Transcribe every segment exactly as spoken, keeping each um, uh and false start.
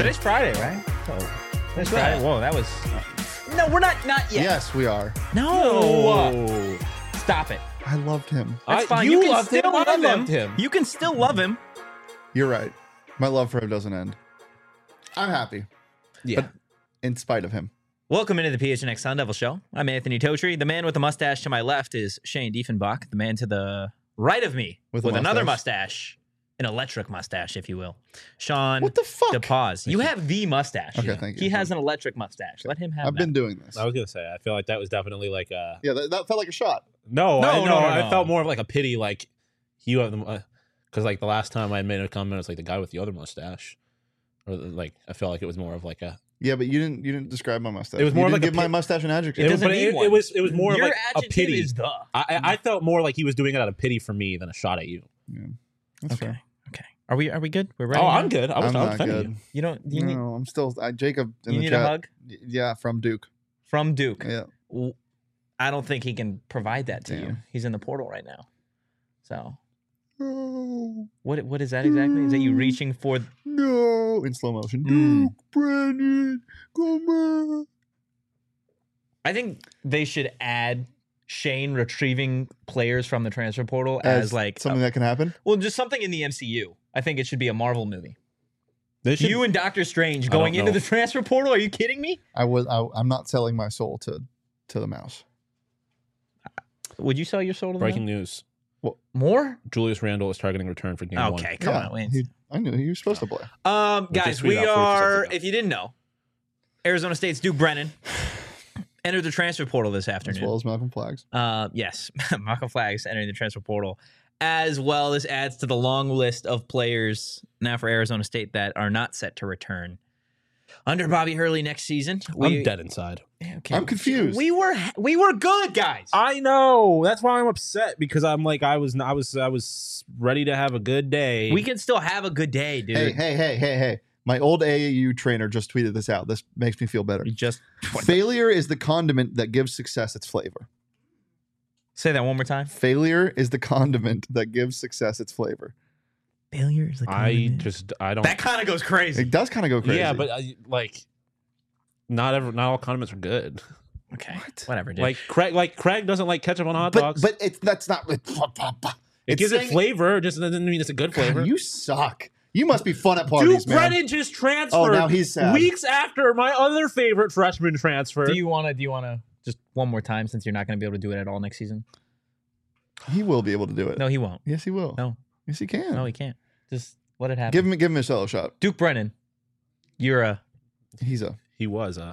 Today's Friday, right? Oh, Today's Friday. Whoa, that was. No, we're not. Not yet. Yes, we are. No. no. Stop it. I loved him. That's I- fine. you You, can loved still him, I love him. loved him. You can still love him. You're right. My love for him doesn't end. I'm happy, Yeah. But- in spite of him. Welcome into the P H N X Sun Devil Show. I'm Anthony Totri. The man with the mustache to my left is Shane Diefenbach. The man to the right of me With with, a another mustache. mustache, an electric mustache, if you will. Sean What the fuck? DePaz. You have the mustache. Okay, thank you. He has an electric mustache. Let him have I've that. been doing this. I was gonna say. I feel like that was definitely like a. Yeah, that, that felt like a shot. No, No, I, no, no, no, I no. felt more of like a pity. Like you have them, because like the last time I made a comment, it was like the guy with the other mustache, or like I felt like it was more of like a. Yeah, but you didn't. You didn't describe my mustache. It was You more didn't like a give my pit- mustache an adjective. It It was, doesn't but need it, one. it was it was more Your of like a adjective pity. is the. I, I I felt more like he was doing it out of pity for me than a shot at you. Yeah, that's Okay. fair. Okay. Are we? Are we good? We're ready. Oh, now? I'm good. I was I'm I was not defending good. you. You don't. You need. no, I'm still. I, Jacob in You the need chat. a hug Yeah, from Duke. from Duke. Yeah. W- I don't think he can provide that to you. Damn. He's in the portal right now. So No, what? What is that exactly? Is that you reaching for? no, in slow motion. Mm. Duke, Brandon, come on. I think they should add Shane retrieving players from the transfer portal as, As like something a- that can happen. well, just something in the M C U. I think it should be a Marvel movie. They should, You and Doctor Strange I don't going into know. the transfer portal? Are you kidding me? I was. I, I'm not selling my soul to to the mouse. Would you sell your soul to them? breaking news: More? Julius Randle is targeting return for game one. Okay, come Yeah, on. Wait. he- I knew he was supposed to play. Um, We just guys, tweeted we out forty are. seconds ago. If you didn't know, Arizona State's Duke Brennan entered the transfer portal this As afternoon. well as Malcolm Flags. Uh, yes, Malcolm Flags entering the transfer portal. As well, this adds to the long list of players now for Arizona State that are not set to return under Bobby Hurley next season. I'm dead inside. Okay. I'm confused. We were we were good, guys. I know. That's why I'm upset because I'm like I was I was I was ready to have a good day. We can still have a good day, dude. Hey, hey, hey, hey, hey. My old A A U trainer just tweeted this out. This makes me feel better. You just Failure is the condiment that gives success its flavor. say that one more time. Failure is the condiment that gives success its flavor. Failure is the I just I don't. that kind of goes crazy. It does kind of go crazy. Yeah, but I, like, not ever. Not all condiments are good. Okay, What? whatever, dude. Like Craig, like Craig doesn't like ketchup on hot but, dogs. but it's that's not. It it gives it flavor. It just doesn't mean it's a good flavor. You suck. You must be fun at parties, Duke man. Brennan just transferred. Oh, now he's sad. Weeks after my other favorite freshman transfer. do you want to? Do you want to just one more time since you're not going to be able to do it at all next season? He will be able to do it. No, he won't. Yes, he will. No, Yes, he can. no, he can't. Just let it happen. Give him, give him a solo shot. Duke Brennan, you're a He's a. he was a.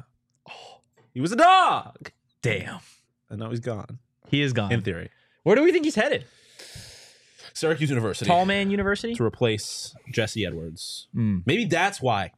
He was a dog, damn. and now he's gone. He is gone. In theory, Where do we think he's headed? Syracuse University Tall Man University. to replace Jesse Edwards. Mm. Maybe that's why.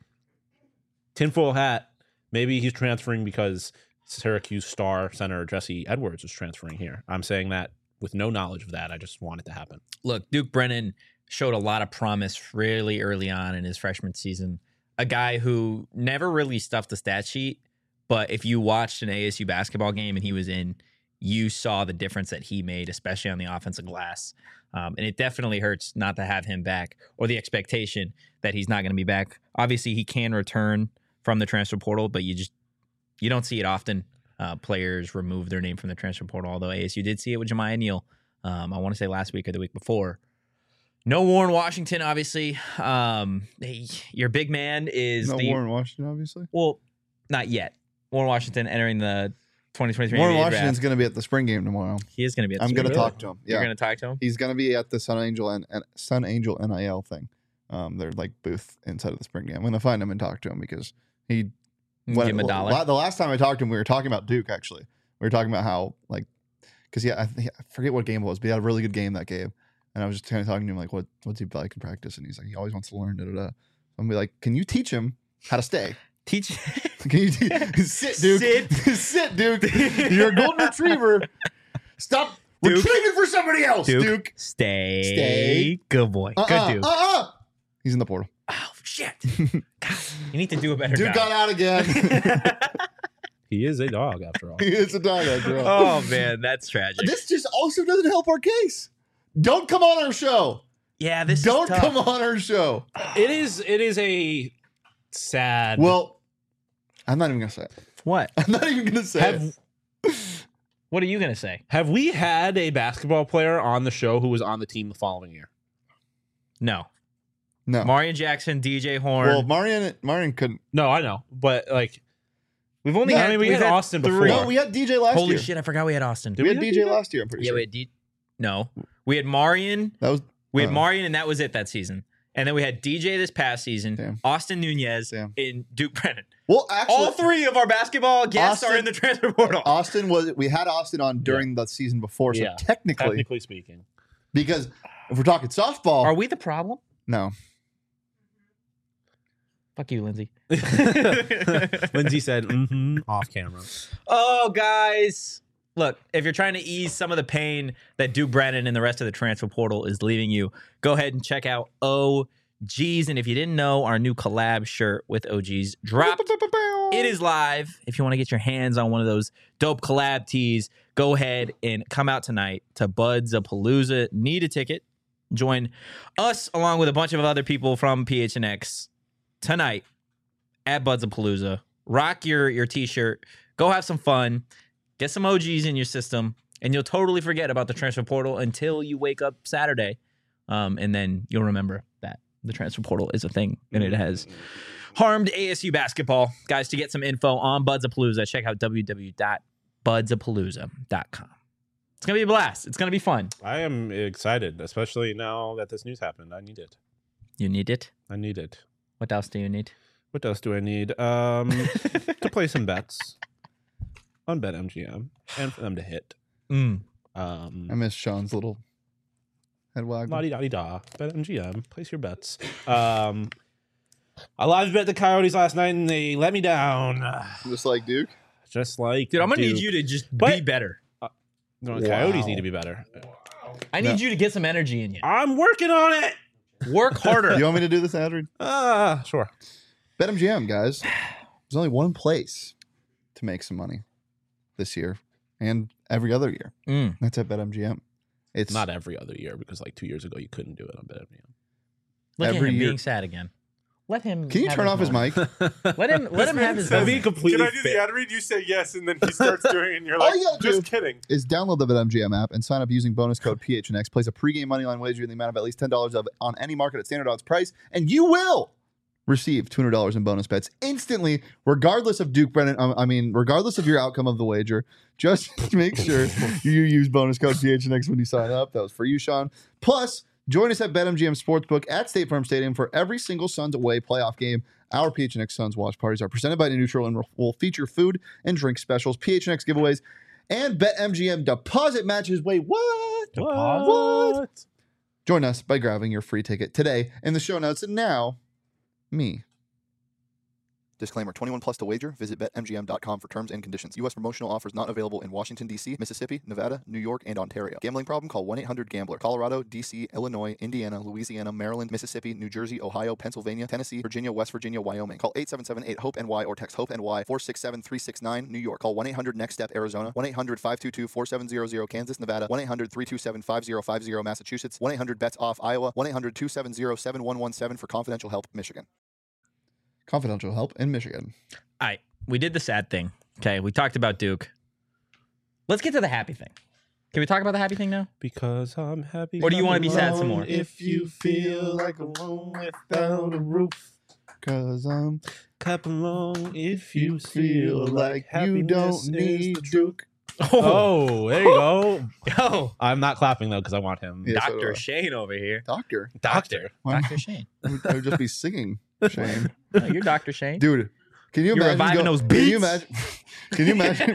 Tinfoil hat. Maybe he's transferring because Syracuse star center Jesse Edwards is transferring here. I'm saying that with no knowledge of that. I just want it to happen. Look, Duke Brennan showed a lot of promise really early on in his freshman season. A guy who never really stuffed the stat sheet, but if you watched an A S U basketball game and he was in, you saw the difference that he made, especially on the offensive glass. Um, and it definitely hurts not to have him back, or the expectation that he's not going to be back. Obviously, he can return from the transfer portal, but you just you don't see it often. Uh, players remove their name from the transfer portal, although A S U did see it with Jemiah Neal. Um, I want to say last week or the week before. No Warren Washington, obviously. Um, hey, your big man is No the Warren Washington, obviously. well, not yet. Warren Washington entering the twenty twenty-three Warren N B A Washington's draft. going to be at the spring game tomorrow. He is going to be. At the I'm going to spring talk game. to him. You're Yeah, going to talk to him. he's going to be at the Sun Angel and, and Sun Angel N I L thing. Um, their like booth inside of the spring game. I'm going to find him and talk to him because he. Give when- him a dollar. la- The last time I talked to him, we were talking about Duke. Actually, we were talking about how like because yeah, I, think- I forget what game it was, but he had a really good game that game. And I was just kind of talking to him like, what what's he like in practice? And he's like, he always wants to learn. Da da da. I'm be like, can you teach him how to stay? Teach. Can you te- sit, Duke? Sit. Sit, Duke. You're a golden retriever. Stop Duke. retrieving for somebody else, Duke. Duke. Stay. Stay. Good boy. Uh-uh, Good Duke. Uh-uh. He's in the portal. Oh shit! God, you need to do a better Duke job. got out again. He is a dog after all. He is a dog after all. Oh man, that's tragic. This just also doesn't help our case. Don't come on our show. yeah, this Don't is tough. come on our show. It is. It is a sad. Well, I'm not even gonna say it. What? I'm not even gonna say have it. What are you gonna say? have we had a basketball player on the show who was on the team the following year? No. No. Marion Jackson, D J Horn. Well, Marion, Marion couldn't. No, I know, but like, we've only No, had. I mean, we we've had Austin before. No, we had D J last Holy year. shit! I forgot we had Austin. Did We we had have D J D J? last year. I'm pretty Yeah, sure. we had D. No, we had Marion. That was We had Oh. Marion, and that was it that season. And then we had D J this past season, Damn. Austin Nunez, Damn. and Duke Brennan. well. Actually, All three of our basketball guests Austin- are in the transfer portal. Austin was. We had Austin on during the season before, so Yeah. technically, Technically speaking, because if we're talking softball, Are we the problem? no. Fuck you, Lindsay. Lindsay said mm-hmm, off camera. Oh, guys. Look, if you're trying to ease some of the pain that Duke Brennan and the rest of the transfer portal is leaving you, go ahead and check out O Gs. And if you didn't know, our new collab shirt with O Gs dropped. It is live. If you want to get your hands on one of those dope collab tees, go ahead and come out tonight to Buds of Palooza. Need a ticket. Join us along with a bunch of other people from P H N X tonight at Buds of Palooza. Rock your, your t-shirt. Go have some fun. Get some O Gs in your system, and you'll totally forget about the transfer portal until you wake up Saturday. Um, and then you'll remember that the transfer portal is a thing, and it has harmed A S U basketball. Guys, to get some info on Buds of Palooza, check out w w w dot buds of palooza dot com. It's going to be a blast. It's going to be fun. I am excited, especially now that this news happened. I need it. You need it. I need it. What else do you need? What else do I need? Um, to play some bets on BetMGM and for them to hit. Mm. Um, I miss Sean's little head wag. La di da di da. BetMGM. Place your bets. Um, I live bet the Coyotes last night and they let me down. Just like Duke. Just like Dude, I'm going to Duke. need you to just be But- better. No, the Coyotes Wow. need to be better. I need No. you to get some energy in you. I'm working on it. Work harder. You want me to do this, Adrian? Ah, sure. BetMGM, guys. There's only one place to make some money this year and every other year. Mm. That's at BetMGM. It's Not every other year because like two years ago you couldn't do it on BetMGM. Look Every at him year. being sad again. Let him. Can you have turn off his moment. mic? Let him. Let him have his. That'd moment. be completely Can I do fit. the ad read? You say yes, and then he starts doing it, and you're All like, you gotta just do- kidding. Is download the BetMGM app and sign up using bonus code P H N X. Place a pregame moneyline wager in the amount of at least ten dollars of on any market at standard odds price, and you will receive two hundred dollars in bonus bets instantly, regardless of Duke Brennan. Um, I mean, regardless of your outcome of the wager. Just make sure you use bonus code P H N X when you sign up. That was for you, Sean. Plus, join us at BetMGM Sportsbook at State Farm Stadium for every single Suns away playoff game. Our P H N X Suns watch parties are presented by Neutral and will feature food and drink specials, P H N X giveaways, and BetMGM deposit matches. Wait, what? What? Join us by grabbing your free ticket today in the show notes. And now, me. Disclaimer, twenty-one plus to wager. Visit bet M G M dot com for terms and conditions. U S promotional offers not available in Washington, D C, Mississippi, Nevada, New York, and Ontario. Gambling problem? Call one eight hundred gambler. Colorado, D C, Illinois, Indiana, Louisiana, Maryland, Mississippi, New Jersey, Ohio, Pennsylvania, Tennessee, Virginia, West Virginia, Wyoming. Call eight seven seven eight hope N Y or text HOPE-NY four six seven three six nine. New York. Call one eight hundred next step Arizona. one eight hundred five two two four seven zero zero Kansas, Nevada. one eight hundred three two seven five zero five zero Massachusetts. one eight hundred bets off Iowa. one eight hundred two seven zero seven one one seven for confidential help, Michigan. Confidential help in Michigan. All right, we did the sad thing. Okay, we talked about Duke. Let's get to the happy thing. Can we talk about the happy thing now? Because I'm happy. Or do you wanna I'm be sad some alone more? If you feel like a room without a roof. Cause I'm Clap along if you feel like you happiness don't is need the Duke. Oh, there you go. Oh, I'm not clapping though because I want him. Yeah, so do Doctor I. Shane over here. Doctor. Doctor. Why- Doctor Shane. I would just be singing, Shane. No, you're Doctor Shane. Dude, can you You're imagine? reviving go- those Can you beats? imagine? Can you imagine?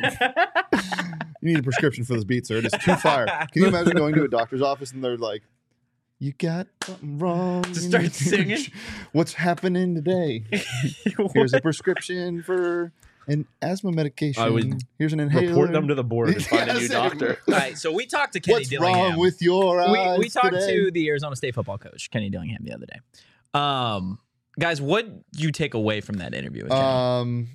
You need a prescription for this beat, sir. It is too fire. Can you imagine going to a doctor's office and they're like, "You got something wrong." Just in start your- singing? What's happening today? Here's a prescription for an asthma medication. I would Here's an inhaler. Report them to the board and find a new Yes, doctor. All right, so we talked to Kenny What's Dillingham. wrong with your eyes we we talked today? to the Arizona State football coach, Kenny Dillingham, the other day. Um, guys, what did you take away from that interview with Kenny? Um,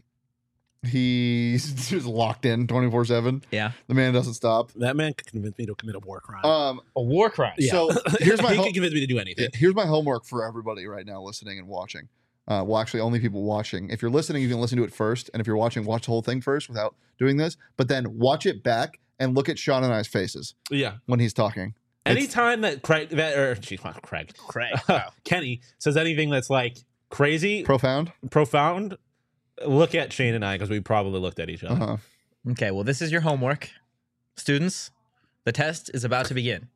he's just locked in twenty-four seven. yeah, The man doesn't stop. That man could convince me to commit a war crime. Um, a war crime. Yeah. so here's my he ho- could convince me to do anything. here's my homework for everybody right now listening and watching. Uh, well, actually, only people watching. If you're listening, you can listen to it first. And if you're watching, watch the whole thing first without doing this. But then watch it back and look at Sean and I's faces Yeah. when he's talking. It's- Anytime that Craig, that, or geez, not Craig, Craig. Wow. Kenny says anything that's like crazy, profound. profound, look at Shane and I because we probably looked at each other. Uh-huh. Okay, well, this is your homework. Students, the test is about to begin.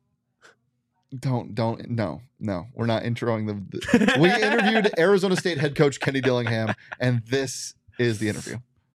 Don't, don't, no, no. We're not introing the. the we interviewed Arizona State head coach Kenny Dillingham, and this is the interview.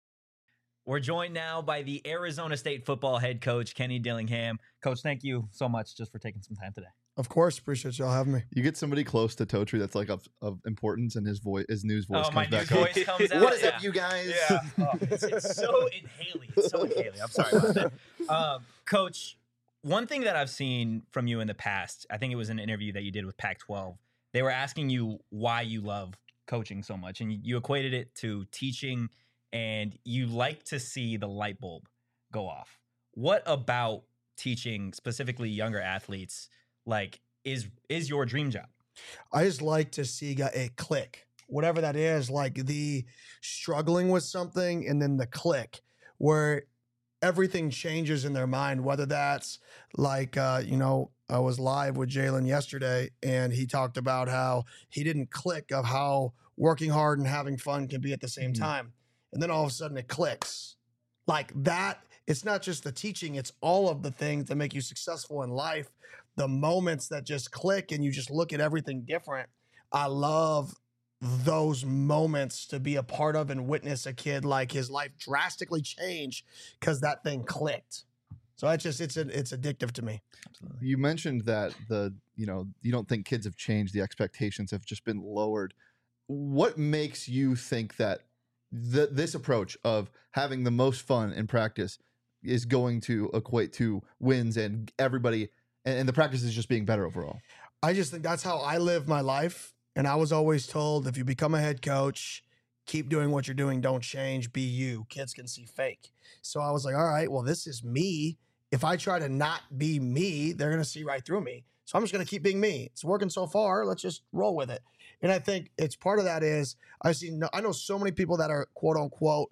We're joined now by the Arizona State football head coach, Kenny Dillingham. Coach, thank you so much just for taking some time today. Of course, appreciate y'all having me. You get somebody close to Totri that's like of, of importance, and his voice, his news voice Oh, comes my back. news up. voice comes out. What is yeah. up, you guys? Yeah. Oh, it's, it's so inhaling. It's so inhaling. I'm sorry about that. Um, Coach, one thing that I've seen from you in the past, I think it was an interview that you did with Pac twelve. They were asking you why you love coaching so much, and you, you equated it to teaching, and you like to see the light bulb go off. What about teaching, specifically younger athletes, like is is your dream job? I just like to see a click, whatever that is, like the struggling with something and then the click where everything changes in their mind, whether that's like, uh, you know, I was live with Jalen yesterday and he talked about how he didn't click of how working hard and having fun can be at the same Mhm. time. And then all of a sudden it clicks like that. It's not just the teaching, it's all of the things that make you successful in life. The moments that just click and you just look at everything different. I love those moments to be a part of and witness a kid like his life drastically change because that thing clicked. So it's just it's it's addictive to me. Absolutely. You mentioned that the you know you don't think kids have changed, the expectations have just been lowered. What makes you think that the, this approach of having the most fun in practice is going to equate to wins and everybody and, and the practice is just being better overall? I just think that's how I live my life. And I was always told if you become a head coach, keep doing what you're doing, don't change, be you. Kids can see fake. So I was like, all right, well, this is me. If I try to not be me, they're going to see right through me. So I'm just going to keep being me. It's working so far. Let's just roll with it. And I think it's part of that is I see, I know so many people that are quote unquote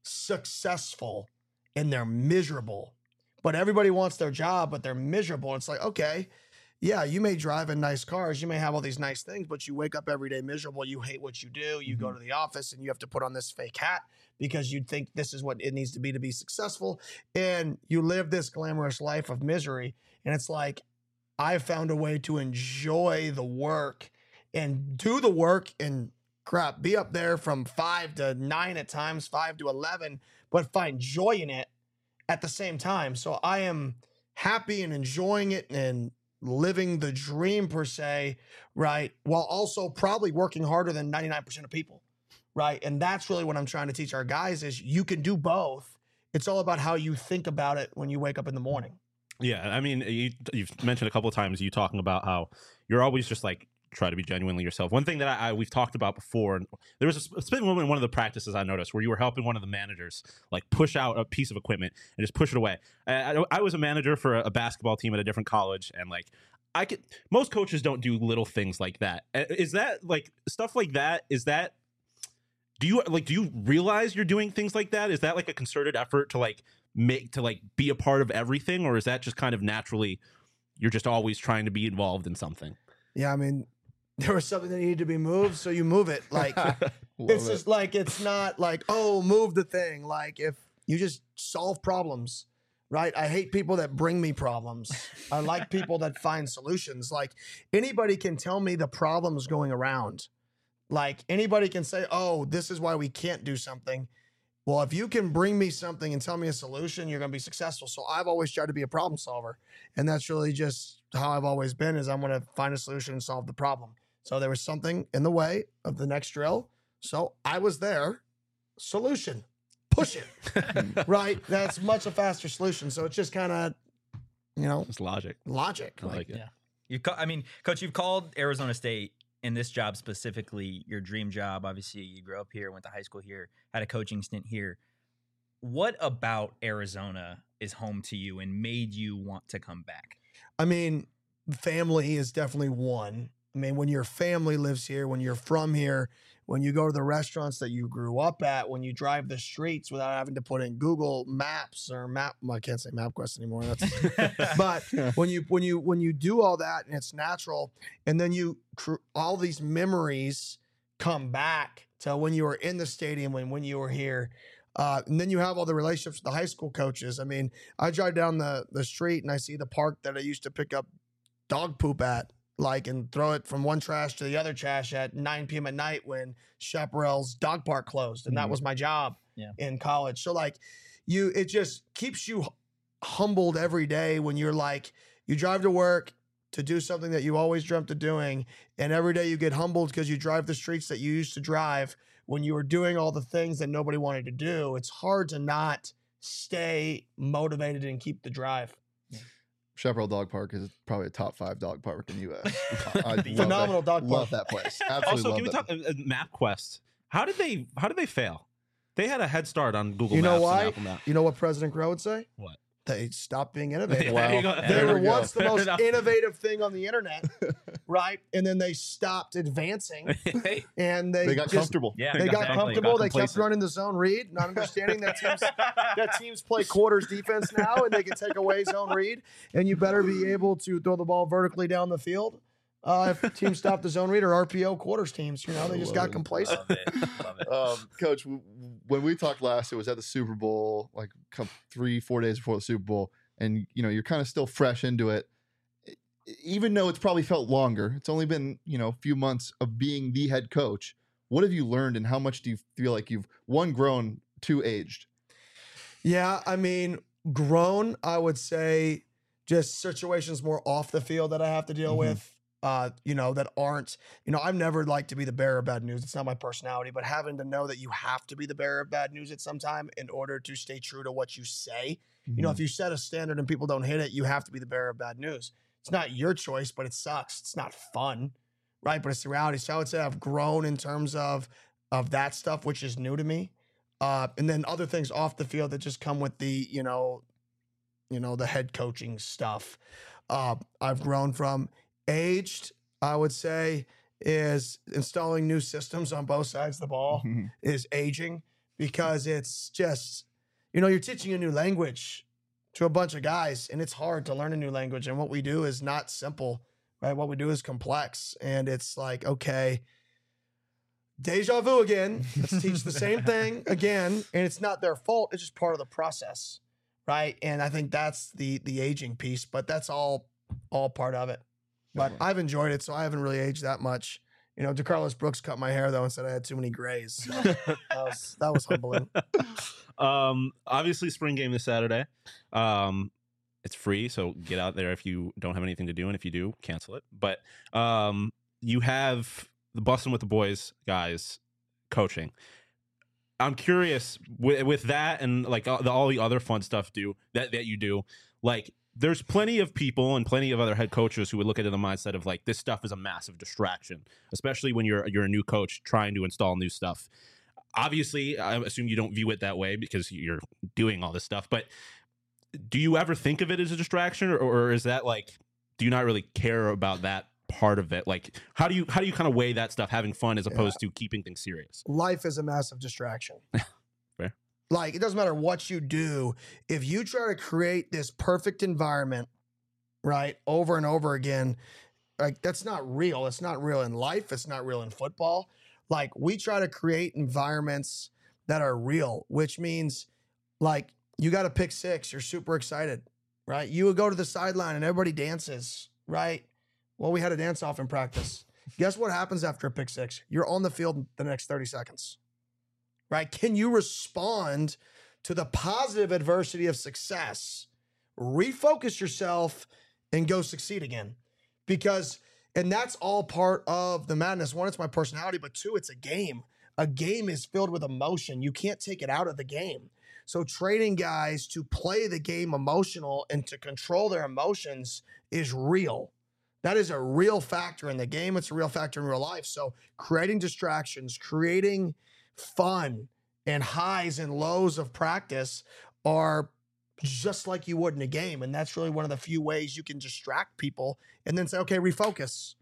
successful and they're miserable, but everybody wants their job, but they're miserable. It's like, okay, yeah, you may drive in nice cars, you may have all these nice things, but you wake up every day miserable. You hate what you do. You Mm-hmm. go to the office and you have to put on this fake hat because you think this is what it needs to be to be successful. And you live this glamorous life of misery. And it's like, I found a way to enjoy the work and do the work and crap, be up there from five to nine at times, five to eleven, but find joy in it at the same time. So I am happy and enjoying it and living the dream per se, right? While also probably working harder than ninety-nine percent of people, right? And that's really what I'm trying to teach our guys is you can do both. It's all about how you think about it when you wake up in the morning. Yeah, I mean, you, you've mentioned a couple of times you talking about how you're always just like try to be genuinely yourself. One thing that I, I we've talked about before, and there was a split moment in one of the practices I noticed where you were helping one of the managers like push out a piece of equipment and just push it away. I, I, I was a manager for a, a basketball team at a different college, and like I could, most coaches don't do little things like that. Uh, Is that like stuff like that? Is that do you like do you realize you're doing things like that? Is that like a concerted effort to like make to like be a part of everything, or is that just kind of naturally you're just always trying to be involved in something? Yeah, I mean, there was something that needed to be moved, so you move it. Like Love it's it. just like it's not like, oh, move the thing. Like if you just solve problems, right? I hate people that bring me problems. I like people that find solutions. Like anybody can tell me the problems going around. Like anybody can say, oh, this is why we can't do something. Well, if you can bring me something and tell me a solution, you're going to be successful. So I've always tried to be a problem solver. And that's really just how I've always been is I'm going to find a solution and solve the problem. So there was something in the way of the next drill. So I was there. Solution. Push it. Right? That's much a faster solution. So it's just kind of, you know, It's logic. logic. I like it. Yeah. You, ca- I mean, Coach, you've called Arizona State in this job specifically your dream job. Obviously, you grew up here, went to high school here, had a coaching stint here. What about Arizona is home to you and made you want to come back? I mean, family is definitely one. I mean, when your family lives here, when you're from here, when you go to the restaurants that you grew up at, when you drive the streets without having to put in Google Maps or Map, well, I can't say MapQuest anymore. That's, but when you when you when you do all that and it's natural, and then you cr- all these memories come back to when you were in the stadium and when you were here. Uh, and then you have all the relationships with the high school coaches. I mean, I drive down the, the street and I see the park that I used to pick up dog poop at, like, and throw it from one trash to the other trash at nine p.m. at night when Chaparral's dog park closed. And that Mhm. was my job Yeah. in college. So, like, you, it just keeps you humbled every day when you're like, you drive to work to do something that you always dreamt of doing. And every day you get humbled because you drive the streets that you used to drive when you were doing all the things that nobody wanted to do. It's hard to not stay motivated and keep the drive. Chaparral Dog Park is probably a top five dog park in the U S. I love Phenomenal that, dog park. Love that place. Absolutely Also, love can we that. talk uh, uh, MapQuest? How did they how did they fail? They had a head start on Google You know Maps why? and Apple Maps. You know what President Crow would say? What? They stopped being innovative. There you go. They There were we go. once the Fair most enough. innovative thing on the internet, right? And then they stopped advancing, and they, They got just, comfortable. Yeah. They got exactly. comfortable. They kept complacent. running the zone read, not understanding that teams that teams play quarters defense now, and they can take away zone read. And you better be able to throw the ball vertically down the field. Uh, if teams stop the zone read or R P O quarters teams, you know, they just got Love it. complacent. Love it. Love it. Um, Coach, w- when we talked last, it was at the Super Bowl, like come three, four days before the Super Bowl, and you know you're kind of still fresh into it. E- Even though it's probably felt longer, it's only been you know a few months of being the head coach. What have you learned, and how much do you feel like you've one grown, two aged? Yeah, I mean, grown, I would say just situations more off the field that I have to deal Mhm. with, uh, you know, that aren't, you know, I've never liked to be the bearer of bad news. It's not my personality, but having to know that you have to be the bearer of bad news at some time in order to stay true to what you say. You know, if you set a standard and people don't hit it, you have to be the bearer of bad news. It's not your choice, but it sucks. It's not fun, right? But it's the reality. So I would say I've grown in terms of of that stuff, which is new to me. Uh, and then other things off the field that just come with the, you know, you know, the head coaching stuff. Uh, I've grown from. Aged, I would say, is installing new systems on both sides of the ball Mhm. is aging because it's just, you know, you're teaching a new language to a bunch of guys and it's hard to learn a new language. And what we do is not simple, right? What we do is complex. And it's like, okay, deja vu again. Let's teach the same thing again. And it's not their fault. It's just part of the process, right? And I think that's the the aging piece, but that's all all part of it. But I've enjoyed it, so I haven't really aged that much. You know, DeCarlos Brooks cut my hair though and said I had too many grays. So that was that was humbling. um, obviously, spring game this Saturday. Um, it's free, so get out there if you don't have anything to do, and if you do, cancel it. But um, you have the Bussin' with the Boys guys coaching. I'm curious with, with that and like all the, all the other fun stuff do that that you do. Like, there's plenty of people and plenty of other head coaches who would look at it in the mindset of like, this stuff is a massive distraction, especially when you're you're a new coach trying to install new stuff. Obviously, I assume you don't view it that way because you're doing all this stuff. But do you ever think of it as a distraction, or, or is that like, do you not really care about that part of it? Like, how do you how do you kind of weigh that stuff, having fun as opposed to keeping things serious? Life is a massive distraction. Fair. Like, it doesn't matter what you do. If you try to create this perfect environment, right, over and over again, like, that's not real. It's not real in life. It's not real in football. Like, we try to create environments that are real, which means, like, you got to pick six. You're super excited, right? You would go to the sideline and everybody dances, right? Well, we had a dance off in practice. Guess what happens after a pick six? You're on the field the next thirty seconds, right? Can you respond to the positive adversity of success? Refocus yourself and go succeed again. Because, and that's all part of the madness. One, it's my personality, but two, it's a game. A game is filled with emotion. You can't take it out of the game. So training guys to play the game emotional and to control their emotions is real. That is a real factor in the game. It's a real factor in real life. So creating distractions, creating fun and highs and lows of practice are just like you would in a game. And that's really one of the few ways you can distract people and then say, okay, refocus.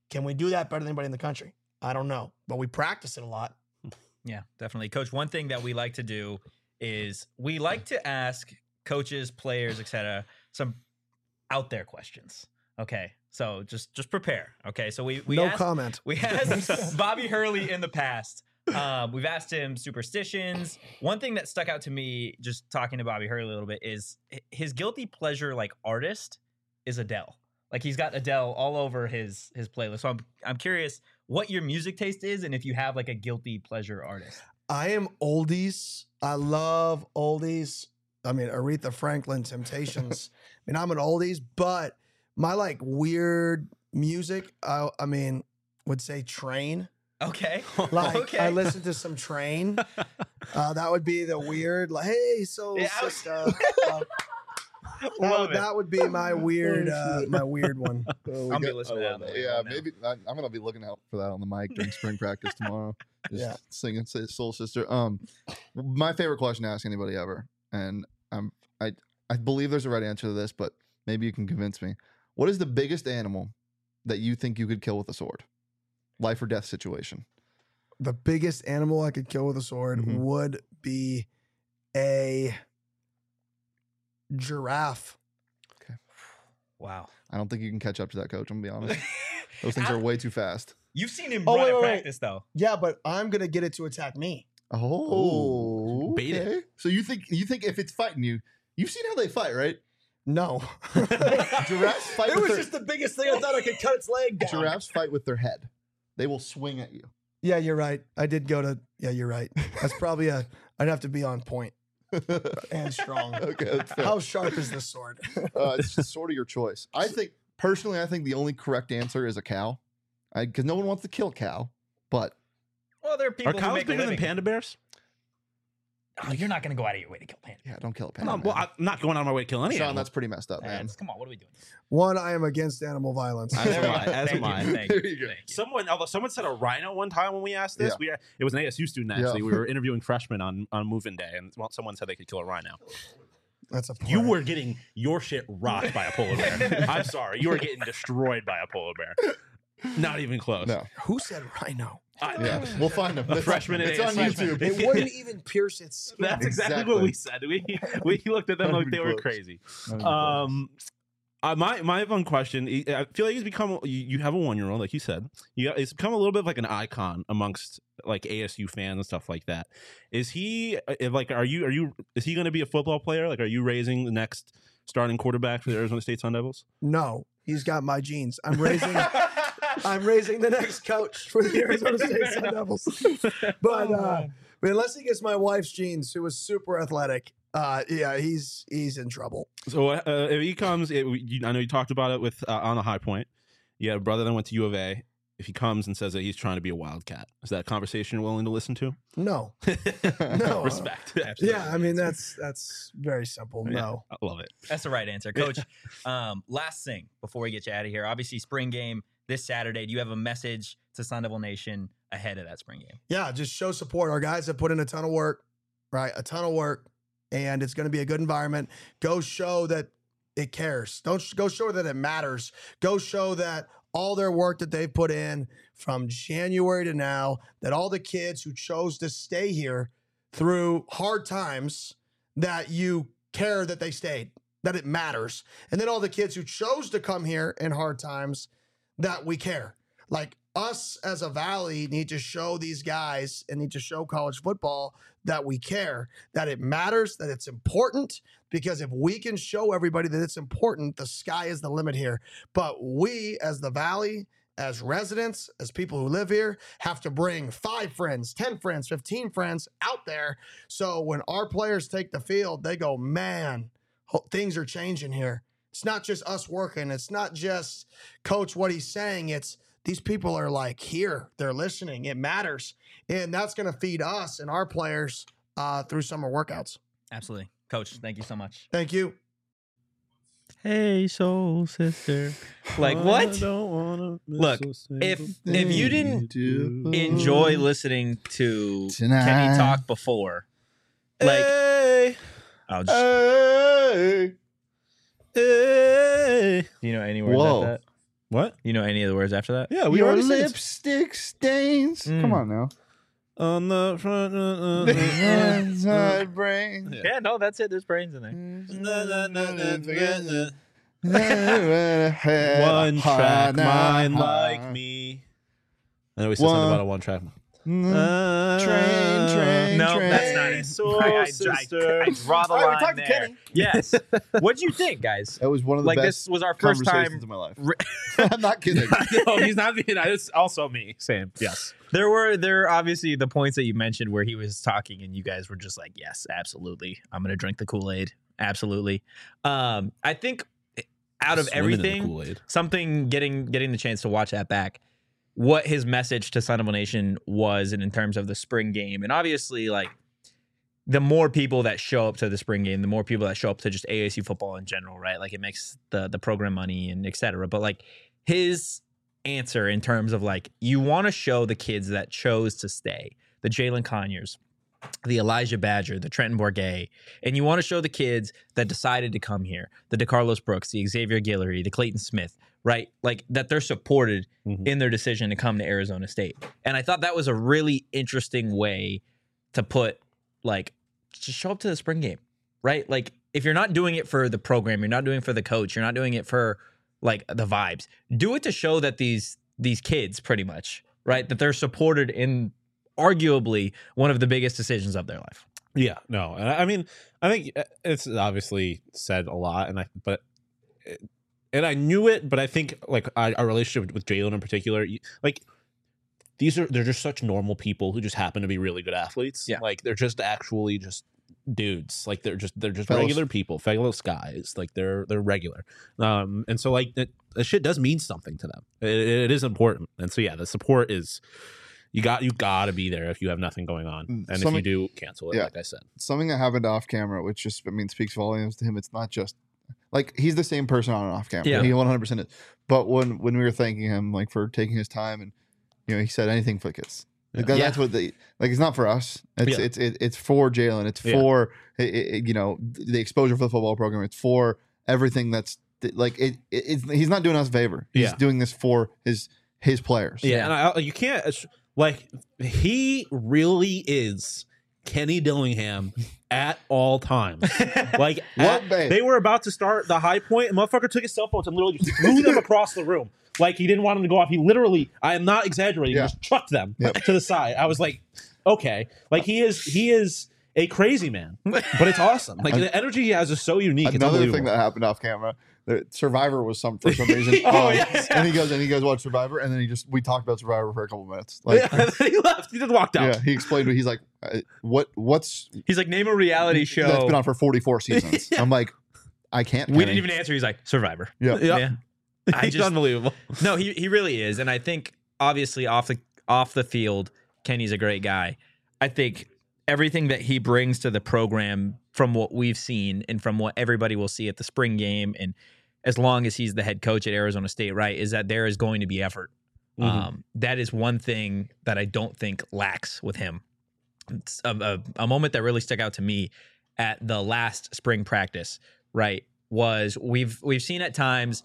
Can we do that better than anybody in the country? I don't know, but we practice it a lot. Yeah, definitely. Coach, one thing that we like to do is we like to ask coaches, players, et cetera, some out there questions. Okay. So just just prepare. Okay. So we, we no asked, comment. We asked Bobby Hurley in the past. Um, we've asked him superstitions. One thing that stuck out to me just talking to Bobby Hurley a little bit is his guilty pleasure like artist is Adele. Like he's got Adele all over his his playlist. So I'm I'm curious what your music taste is and if you have like a guilty pleasure artist. I am oldies. I love oldies. I mean, Aretha Franklin, Temptations. I mean, I'm an oldies, but my like weird music, I, I mean, would say Train. Okay. Like okay. I listen to some Train. Uh, that would be the weird, like, hey, soul Yeah, I- sister. Uh, that, Love would, it. that would be my weird, Oh, uh, shit. my weird one. Oh, we I'll be got- listening to that on the way Yeah, home now. maybe I, I'm gonna be looking out for that on the mic during spring practice tomorrow. Just Yeah. singing say Soul Sister. Um, my favorite question to ask anybody ever, and I'm I I believe there's a right answer to this, but maybe you can convince me. What is the biggest animal that you think you could kill with a sword? Life or death situation. The biggest animal I could kill with a sword Mhm. would be a giraffe. Wow. I don't think you can catch up to that, coach. I'm gonna be honest. Those things are way too fast. You've seen him Oh, run wait, at wait, wait. practice though. Yeah, but I'm gonna get it to attack me. Oh, bait it. okay. So you think you think if it's fighting you, you've seen how they fight, right? No. Giraffes fight It with was their just the biggest thing. I thought I could cut its leg down. giraffes fight with their head. They will swing at you. Yeah, you're right. I did go to. Yeah, you're right. That's probably a. I'd have to be on point and strong. Okay, that's fair. How sharp is this sword? uh, it's just sort of your choice. I think personally, I think the only correct answer is a cow, because no one wants to kill a cow. But Well, there are people Are who cows make a bigger than living. panda bears? Oh, you're not going to go out of your way to kill panda. yeah, don't kill a panda. No, well, man. I'm not going out of my way to kill any Sean, animal. that's pretty messed up, man. That's- come on, what are we doing? One, I am against animal violence. As am I. As Thank am you, I. thank There you, you go. thank you. Someone, although someone said a rhino one time when we asked this, Yeah. we it was an A S U student Yeah. actually. We were interviewing freshmen on on move-in day, and well, someone said they could kill a rhino. That's a. You play. were getting your shit rocked by a polar bear. I'm sorry, you were getting destroyed by a polar bear. Not even close. No, Who said rhino? I- yeah, we'll find him. It's- freshman at It's on A S U. YouTube. It wouldn't even pierce its skin. That's exactly, Exactly. what we said. We we looked at them Not like even they were close. crazy. Not even Um, uh, my my fun question. I feel like he's become. You, you have a one year old, like you said. You it's become a little bit of like an icon amongst like A S U fans and stuff like that. Is he uh, like? Are you are you? Is he going to be a football player? Like, are you raising the next starting quarterback for the Arizona State Sun Devils? No, he's got my genes. I'm raising. I'm raising the next coach for the Arizona State Sun Devils. But uh, but unless he gets my wife's genes, who was super athletic, uh, yeah, he's he's in trouble. So uh, if he comes, it, you, I know you talked about it with uh, on a high point. You had a brother that went to U of A. If he comes and says that he's trying to be a Wildcat, is that a conversation you're willing to listen to? No, no. Respect. Yeah, I mean that's that's very simple. Yeah, No. I love it. That's the right answer, Coach. um, last thing before we get you out of here, obviously spring game this Saturday. Do you have a message to Sun Devil Nation ahead of that spring game? Yeah, just show support. Our guys have put in a ton of work, right? A ton of work, and it's going to be a good environment. Go show that it cares. Don't sh- go show that it matters. Go show that all their work that they've put in from January to now, that all the kids who chose to stay here through hard times, that you care that they stayed, that it matters. And then all the kids who chose to come here in hard times, that we care. Like us as a Valley need to show these guys and need to show college football that we care, that it matters, that it's important, because if we can show everybody that it's important, the sky is the limit here. But we as the Valley, as residents, as people who live here, have to bring five friends, ten friends, fifteen friends out there. So when our players take the field, they go, man, ho- things are changing here. It's not just us working. It's not just coach what he's saying. It's these people are like here. They're listening. It matters. And that's going to feed us and our players uh, through summer workouts. Absolutely. Coach, thank you so much. Thank you. Hey, soul sister. Like what? Look, if if you didn't enjoy listening to Tonight. Kenny talk before, like hey, I'll just Hey. hey. do you know any words Whoa. of that? What? You know any of the words after that? Yeah, we Your already said it. lipstick stains. Mm. Come on now. On the front. Uh, uh, Inside brain. Yeah. Yeah, no, that's it. There's brains in there. One track mind like me. I know we said something One- about a one track. Train, train, No, train. that's not it. Soul I, I, I, sister. I draw the All right, we line talked to there. Kenny. Yes. What'd you think, guys? That was one of the Like best this was our first conversations time. of my life. Re- I'm not kidding. No, he's not being. It's also me. Same. Yes. There were there are obviously the points that you mentioned where he was talking and you guys were just like, yes, absolutely. I'm gonna drink the Kool-Aid. Absolutely. Um, I think out of Swimming in the everything, Kool-Aid. something getting getting the chance to watch that back, what his message to Son of a Nation was, and in terms of the spring game, and obviously like the more people that show up to the spring game, the more people that show up to just A S U football in general, right? Like it makes the the program money and et cetera. But like his answer in terms of like you want to show the kids that chose to stay, the Jalen Conyers, the Elijah Badger, the Trenton Bourget, and you want to show the kids that decided to come here, the DeCarlos Brooks, the Xavier Guillory, the Clayton Smith, right? Like that they're supported Mhm. in their decision to come to Arizona State. And I thought that was a really interesting way to put like just show up to the spring game, right? Like if you're not doing it for the program, you're not doing it for the coach, you're not doing it for like the vibes. Do it to show that these these kids pretty much, right? That they're supported in arguably one of the biggest decisions of their life. Yeah, no, and I I mean, I think it's obviously said a lot, and I, but, and I knew it, but I think like I, our relationship with Jalen in particular, you- like these are they're just such normal people who just happen to be really good athletes. Yeah. Like they're just actually just dudes. Like they're just they're just Fellows. regular people, fellow guys. Like they're they're regular. Um, and so like that, that shit does mean something to them. It, it is important, and so yeah, the support is. You got you got to be there if you have nothing going on, and if Something- you do, cancel it. yeah. Like I said, Something that happened off camera, which just I mean speaks volumes to him. It's not just like he's the same person on and off camera. Yeah. He one hundred percent is. But when when we were thanking him like for taking his time and you know he said anything for the kids. Like that, Yeah. That's what they like. It's not for us. It's Yeah. it's it, it's for Jalen. It's Yeah. for i- i- you know the exposure for the football program. It's for everything that's like it. it it's, he's not doing us a favor. He's Yeah. doing this for his his players. yeah, and I, you can't it's- like he really is Kenny Dillingham at all times. Like What, at- babe? they were about to start the high point, and motherfucker took his cell phones and literally just threw them across the room. Like he didn't want them to go off. He literally, I am not exaggerating, Yeah. just chucked them Yep. to the side. I was like, okay, like he is he is a crazy man, but it's awesome. Like the energy he has is so unique. It's Another unbelievable. thing that happened off camera, the Survivor was some for some reason. Oh, on, yes. And he goes and he goes watch Survivor, and then he just we talked about Survivor for a couple minutes. Like, Yeah, and then he left. He just walked out. yeah, he explained. He's like, uh, what what's He's like, name a reality show. that's been on for forty-four seasons. Yeah. I'm like, I can't. we Kenny. didn't even answer. He's like, Survivor. Yeah. Yeah. Yeah. I He's just- unbelievable. No, he he really is, and I think obviously off the off the field, Kenny's a great guy. I think everything that he brings to the program, from what we've seen and from what everybody will see at the spring game, and as long as he's the head coach at Arizona State, right, is that there is going to be effort. Mhm. Um, that is one thing that I don't think lacks with him. It's a, a, a moment that really stuck out to me at the last spring practice, right, was we've we've seen at times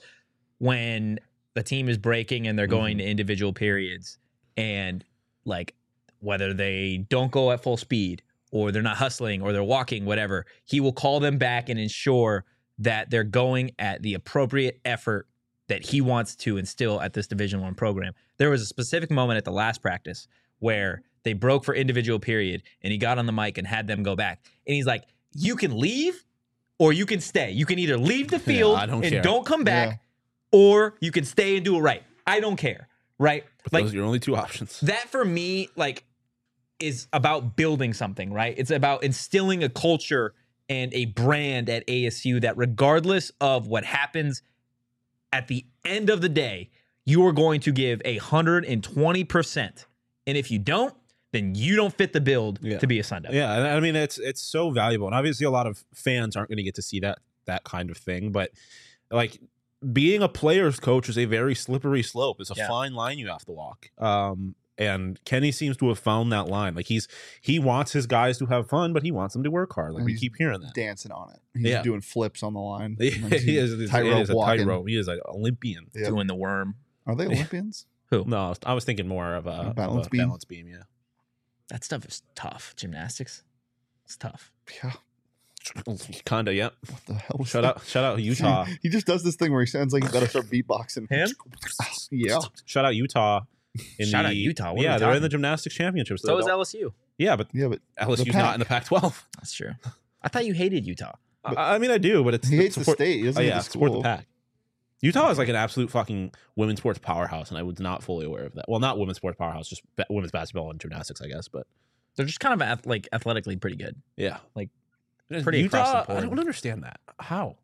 when the team is breaking and they're going to individual periods, and like whether they don't go at full speed or they're not hustling or they're walking, whatever, he will call them back and ensure that they're going at the appropriate effort that he wants to instill at this Division One program. There was a specific moment at the last practice where they broke for individual period and he got on the mic and had them go back. And he's like, you can leave or you can stay. You can either leave the field I don't and care. don't come back, Yeah. or you can stay and do it right. I don't care, right? But Like those are your only two options. that for me, like, is about building something, right? It's about instilling a culture and a brand at A S U that regardless of what happens at the end of the day, you are going to give a hundred and twenty percent. And if you don't, then you don't fit the build Yeah. to be a Sun Devil. Yeah, and I mean it's it's so valuable, and obviously a lot of fans aren't going to get to see that that kind of thing. But like being a player's coach is a very slippery slope. It's a Yeah. fine line you have to walk. Um, And Kenny seems to have found that line. Like he's he wants his guys to have fun, but he wants them to work hard. Like And we he's keep hearing that. dancing on it. He's Yeah. doing flips on the line. he Like, is, it is tightrope a walking. tightrope. He is an Olympian. Yep. Doing the worm. Are they Olympians? Who? No, I was, I was thinking more of a, of balance a beam? balance beam. Yeah. That stuff is tough. Gymnastics. It's tough. Yeah. Kinda. Yep. What the hell? was Shout that? out. Shout out Utah. He just does this thing where he sounds like he's about to start beatboxing. Him? Yeah. Shout out Utah. In Shout the, out Utah. What are yeah, we they're in talking? the gymnastics championships. So is They're- L S U. yeah, but Yeah, but L S U's Pac. not in the Pac twelve. That's true. I thought you hated Utah. I, I mean, I do, but it's he hates the support- state. He doesn't Oh, hate yeah, the support the school. Pac. Utah is like an absolute fucking women's sports powerhouse, and I was not fully aware of that. Well, not women's sports powerhouse, just ba- women's basketball and gymnastics, I guess. But They're just kind of ath- like athletically pretty good. yeah, Like, Utah, pretty across the board. I don't understand that. How?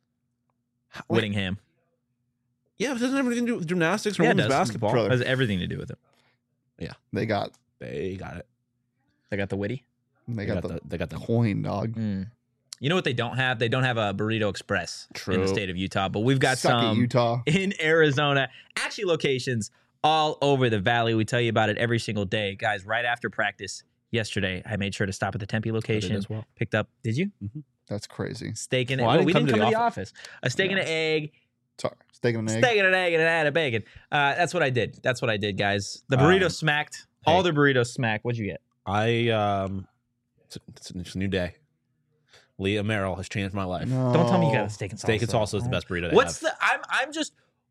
How like, Whittingham yeah, but it doesn't have anything to do with gymnastics or Yeah, it women's does. basketball. Brother. has everything to do with it. They got They got it. They got the witty. they They got, got the, the. They got the. coin, dog. Mm. You know what they don't have? They don't have a Burrito Express in True. the state of Utah, but we've got Suck it, some Utah. in Arizona. Actually, locations all over the valley. We tell you about it every single day, guys. Right after practice yesterday, I made sure to stop at the Tempe location. as well. Picked up. Did you That's crazy. steak and Well, I well, didn't we come didn't to come the to the office. A steak and an egg. Sorry. Steak and an egg. Steak and an egg and an ad of bacon. Uh, that's what I did. That's what I did, guys. The burrito Um, smacked. hey. All the burritos smacked. What'd you get? I um, it's a, it's a, it's a new day. Leah Merrill has changed my life. No. Don't tell me you got a steak and salsa. Steak and salsa is the best burrito. They What's have. the? I'm I'm just.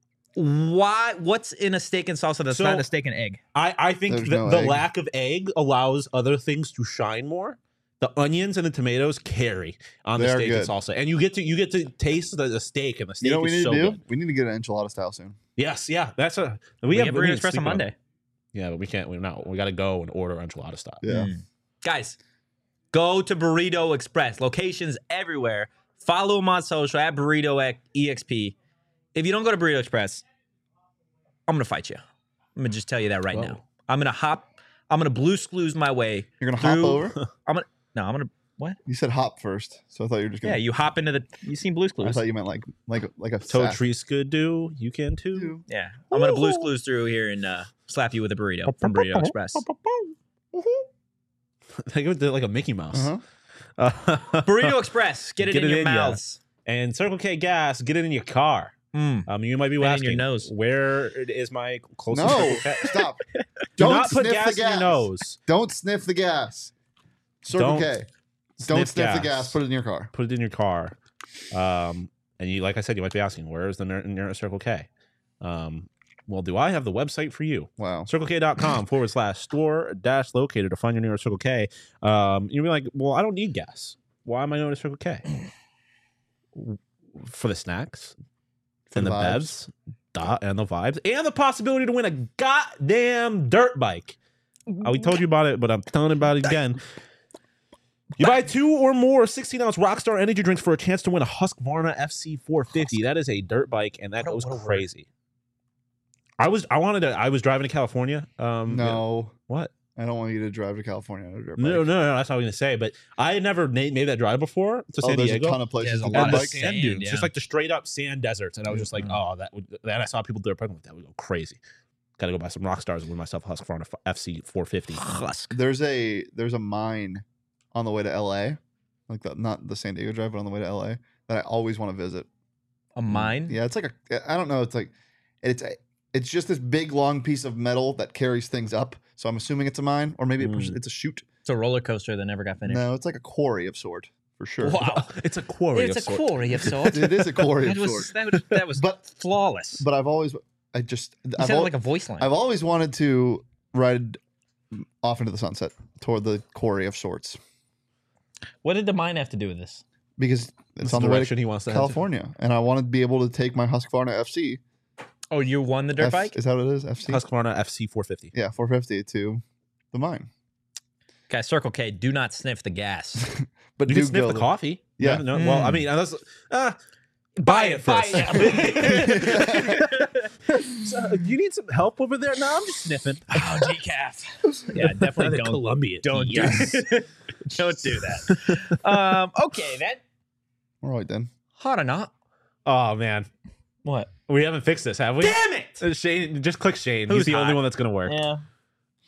Why? What's in a steak and salsa that's So- not a steak and egg? I, I think There's the, no the egg. lack of egg allows other things to shine more. The onions and the tomatoes carry on the They are steak and good. salsa, and you get to you get to taste the, the steak, and the steak You know what we is need so to do? good. We need to get an enchilada style soon. Yes, yeah, that's a we, We, have have we burrito didn't express speak on about it. Monday. Yeah, but we can't. We not. We got to go and order enchilada style. Yeah. Mm. Guys, go to Burrito Express. Locations everywhere. Follow them on social at Burrito E X P. If you don't go to Burrito Express, I'm gonna fight you. I'm gonna just tell you that right Whoa. now. I'm gonna hop. I'm gonna blue screws my way. You're gonna hop Through- over. I'm gonna. No, I'm gonna. What? You said hop first, so I thought you were just Yeah, gonna. you hop into the. You seen Blue I Screws? thought you meant like like like a Toe sack. trees could do. You can too. Yeah, I'm gonna Blue Screws through here and uh, slap you with a burrito from Burrito Express. They go like a Mickey Mouse. Uh-huh. Uh, Burrito Express. Get it Get in it your in ya. mouths. and Circle K gas. Get it in your car. Mm. Um, you might be And in asking, your nose. where is my closest No, Circle K? stop. Do Don't not put sniff gas the in gas. your nose. Don't sniff the gas. Circle Don't K. Don't sniff sniff the gas. gas. Put it in your car. Put it in your car. Um, and you, like I said, you might be asking, where is the near- nearest Circle K? Um, well, do I have the website for you? Wow. CircleK.com forward slash store dash locator to find your nearest Circle K. Um, you'll be like, well, I don't need gas. Why am I going to Circle K? For the snacks For and the the vibes. bevs da- and the vibes and the possibility to win a goddamn dirt bike. Uh, we told you about it, but I'm telling you about it again. You buy two or more sixteen ounce Rockstar energy drinks for a chance to win a Husqvarna F C four fifty. That is a dirt bike, and that What a- goes what a word. crazy. I was, I wanted to, I was driving to California. Um, No, What? I don't want you to drive to California on a dirt No, no, bike. no, that's not what I was going to say. But I had never made, made that drive before to Oh, San there's Diego. a ton of places Yeah, to there's a do lot and of the bike. sand sand, dunes, yeah. just like the straight up sand deserts. And I was just like, Mhm. oh, that would, then I saw people do it. I'm like, that would go crazy. Got to go buy some rock stars and win myself a Husqvarna F C four fifty. Husk. There's a there's a mine on the way to L A, like the, not the San Diego drive, but on the way to L A that I always want to visit. A mine? Yeah, it's like a I don't know. It's like it's a, it's just this big long piece of metal that carries things up. So I'm assuming it's a mine, or maybe it pushes- Mm. it's a chute. It's a roller coaster that never got finished. No, it's like a quarry of sort for sure. Wow. It's a quarry. It's a of sort. quarry of sorts. It is a quarry That of was, sort. that was that was But- flawless. But I've always I just you I've, said it al- like a voice line. I've always wanted to ride off into the sunset toward the quarry of sorts What did the mine have to do with this? because That's it's on the the way direction to he wants to head to. California, and I want to be able to take my Husqvarna F C. Oh, you won the dirt F- bike? Is that what it is? F C. Husqvarna F C four fifty. Yeah, four fifty to the mine. Guys, Circle K, do not sniff the gas. But You do can sniff go the there. coffee. Yeah. No, no, well, I Mm. mean, unless, uh, buy it Buy first. it. So, you need some help over there? No, I'm just sniffing. Oh, decaf. Yeah, definitely don't. Columbia. Don't do Don't do that. Um, okay, then. All right then. Hot or not? Oh man, What? we haven't fixed this, have we? Damn it! Uh, Shane, just click Shane. Who's He's the only hot? one that's gonna work. Yeah.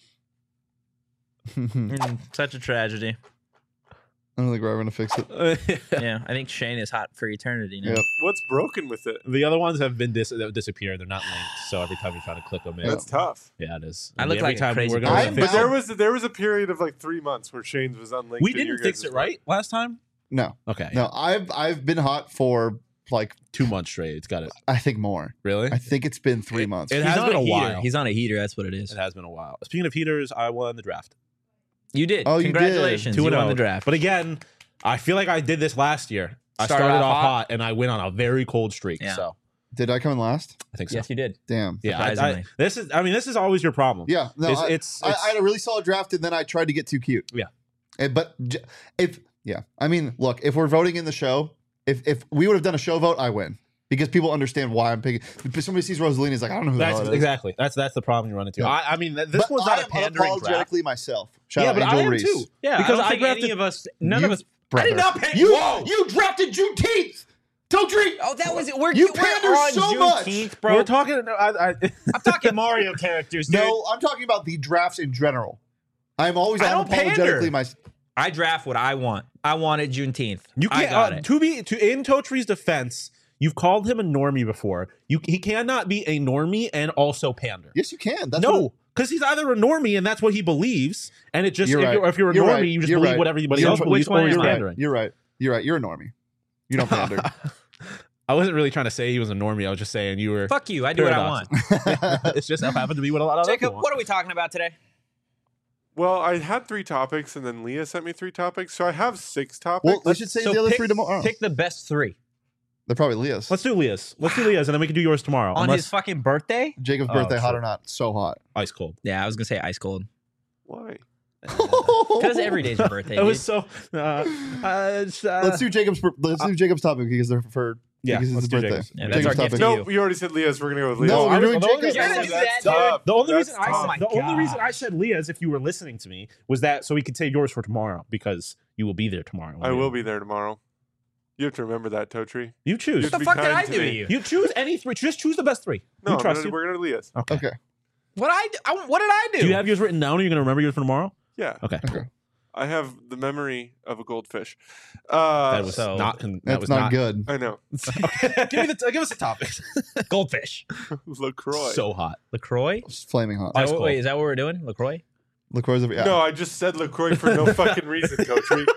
I Mm, such a tragedy. don't think we're ever gonna fix it. Yeah, I think Shane is hot for eternity now. Yep. What's broken with it? The other ones have been dis- that disappeared. They're not linked. So every time you try to click them in, That's tough. yeah, it is. I look every like a time crazy we're person. going I'm to But fix there it. was there was a period of like three months where Shane's was unlinked. We and didn't your fix guys' it right last time. No, Okay, no. I've I've been hot for like two months straight. It's got it. I think more. Really? I think it's been three months. it He's has on been a heater. while. He's on a heater. That's what it is. It has been a while. Speaking of heaters, I won the draft. You did. Oh, you did. Congratulations. Two You and won oh. the draft. But again, I feel like I did this last year. I Started started, off off hot. hot. and I went on a very cold streak. Yeah. So Did I come in last? I think so. Yes, you did. Damn. Yeah, I, I, Surprisingly. this is. I mean, this is always your problem. Yeah. No, it's, I, it's, I, it's- I had a really solid draft, and then I tried to get too cute. Yeah. And- but j- if yeah, I mean, look, if we're voting in the show, if if we would have done a show vote, I win because people understand why I'm picking. If somebody sees Rosalina, he's like, I don't know who the that's hell it is. exactly that's that's the problem you run into. Yeah. I, I mean, th- this But was I not a am pandering draft. unapologetically myself. Shout Yeah, out but Angel I am Reese. too. Yeah, because I don't I think drafted any of us. None You- of us. Brother. I did not pick. You Whoa. you drafted Juneteenth. Totri. Oh, that was it. We're, You we're pander on so much. Juneteenth, bro. We're talking. I, I, I'm talking Mario characters, dude. No, I'm talking about the drafts in general. I'm always I don't pander. unapologetically my. I draft what I want. I wanted Juneteenth. you I can't. got uh, it. To be to in Totri's defense, you've called him a normie before. You he cannot be a normie and also pander. Yes, you can. That's no, what- because he's either a normie and that's what he believes, and it just You're if, right. you're, if you're a You're normie, right. you just You're believe right. what everybody You're else right. believes, Which one or am you're I? pandering. You're right. You're right. You're a normie. You don't pander. I wasn't really trying to say he was a normie. I was just saying you were. Fuck you. I do what I want. Paradox. It's just happened to be what a lot of Jacob, people want. what are we talking about today? Well, I had three topics, and then Leah sent me three topics, so I have six topics. well, we should say So the other pick- three tomorrow. Pick the best three. They're probably Leah's. Let's do Leah's. Let's do Leah's, and then we can do yours tomorrow. On unless his fucking birthday? Jacob's Oh, birthday, hot true. or not? So hot. ice cold. Yeah, I was going to say ice cold. Why? Because every day's your birthday. It was dude. so. Uh, uh, it's, uh, Let's do Jacob's. Let's do Jacob's topic because they're for Yeah, because it's let's his do birthday. Jacob's. Yeah, that's our Jacob's gift topic. to No, you. we already said Leah's. We're gonna go with Leah's. No, I we're was- doing the only Jacob's. reason I You're said gonna that- do that, the- dude? The only That's reason I tough. said Oh my the only reason God. I said Leah's, if you were listening to me, was that so we could save yours for tomorrow because you will be there tomorrow. I will be there tomorrow. You have to remember that, Totri. You choose. What What the be fuck did kind I to do to me. you? You choose any three. Just choose the best three. No, we I'm trust gonna, you. we're going to Leah's. Okay. Okay. What I do- I- what did I do? Do you have yours written down? Or are you going to remember yours for tomorrow? Yeah, Okay. Okay. I have the memory of a goldfish. Uh, That was so- not. Con- that That's was not, not good. I know. Okay. give me the. Give us a topic. goldfish? LaCroix. So hot. LaCroix? It's flaming hot. Is Ice that what- cold. wait, is that what we're doing? LaCroix? LaCroix's over. Yeah. No, I just said LaCroix for no fucking reason, Totri.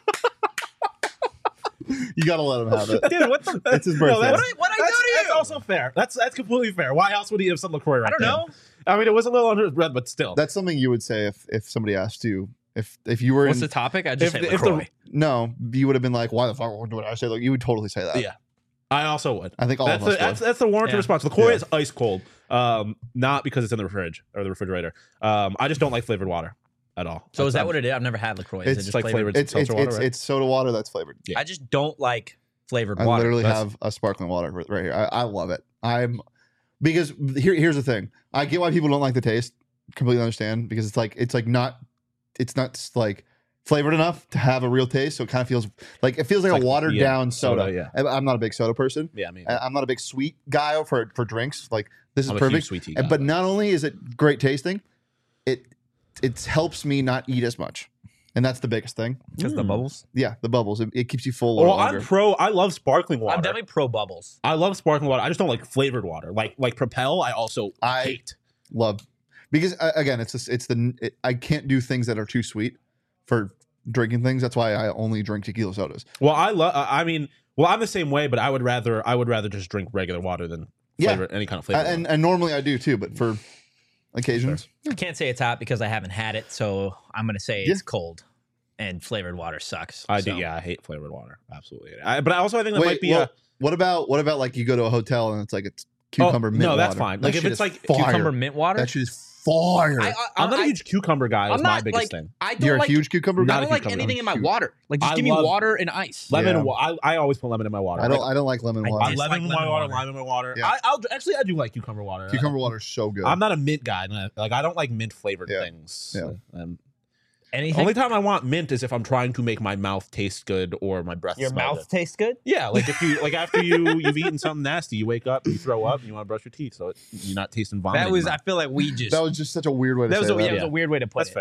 You gotta let him have it. Dude, what the? It's his No, birthday. that's- What I, what I That's, do to that's you? also fair. That's that's completely fair. Why else would he have said LaCroix right I don't there? know. I mean, it was a little under his breath, but still. That's something you would say if if somebody asked you if if you were What's in the topic? I just If- said if the- LaCroix. no, you would have been like, why the fuck would I say? Like you would totally say that. Yeah. I also would. I think all That's of the, us that's, would. that's the warranted Yeah. response. LaCroix Yeah. is ice cold, um, not because it's in the fridge or the refrigerator. Um, I just don't like flavored water at all. So is that I'm- what it is? I've never had LaCroix. Is it It's just like flavored? flavored- It's it's seltzer it's, water, right? it's soda water that's flavored. Yeah. I just don't like flavored I water. literally That's- have a sparkling water right right here. I, I love it. I'm because here here's the thing. I get why people don't like the taste. Completely understand because it's like it's like not it's not like flavored enough to have a real taste. So it kind of feels like it feels like, Like, a watered yeah, down soda. soda, yeah. And I'm not a big soda person. Yeah, I mean, I- I'm not a big sweet guy for for drinks. Like this is I'm a huge perfect. sweet tea And- guy, but but- not only is it great tasting, it it helps me not eat as much, and that's the biggest thing. Because the Mm. bubbles. Yeah, the bubbles. It, it keeps you full. Well, longer. I'm pro. I love sparkling water. I'm definitely pro bubbles. I love sparkling water. I just don't like flavored water. Like like Propel, I also I- hate. love because uh, again, it's just, it's the it, I can't do things that are too sweet for drinking things. That's why I only drink tequila sodas. Well, I love. I mean, well, I'm the same way, but I would rather I would rather just drink regular water than Yeah. flavor any kind of Uh, flavor. and and normally I do too, but for occasions, I can't say it's hot because I haven't had it, so I'm gonna say Yeah. it's cold. And flavored water sucks. I do. so. Yeah, I hate flavored water. Absolutely. I, but I also I think that wait. might be well, a what about what about like you go to a hotel and it's like it's cucumber Oh, mint no, that's water. fine. That Like, if shit it's is like fire. Cucumber mint water. that shit is fire. I, I, I'm not I, a huge cucumber guy. I'm Is my not, biggest like, thing. I don't You're like. a huge cucumber I guy. not a don't like cucumber, anything I'm in my huge. water. Like just I give me love- water and ice. Lemon. Yeah. wa- I, I always put lemon in my water. I don't. Like, I don't like lemon I water. I dislike lemon in my lemon water, water. lime in my water. Yeah. I, I'll actually I do like cucumber water. Cucumber water is so good. I'm not a mint guy. Like I don't like mint flavored Yeah. things. Yeah. Um, Anything. only time I want mint is if I'm trying to make my mouth taste good or my breath. Your smell mouth good. tastes good. Yeah, like if you like after you you've eaten something nasty, you wake up, you throw up, and you want to brush your teeth, so it, you're not tasting vomit. That was. anymore. I feel like we just. that was just such a weird way to that was say a, that. yeah, it was Yeah. a weird way to put That's it. fair.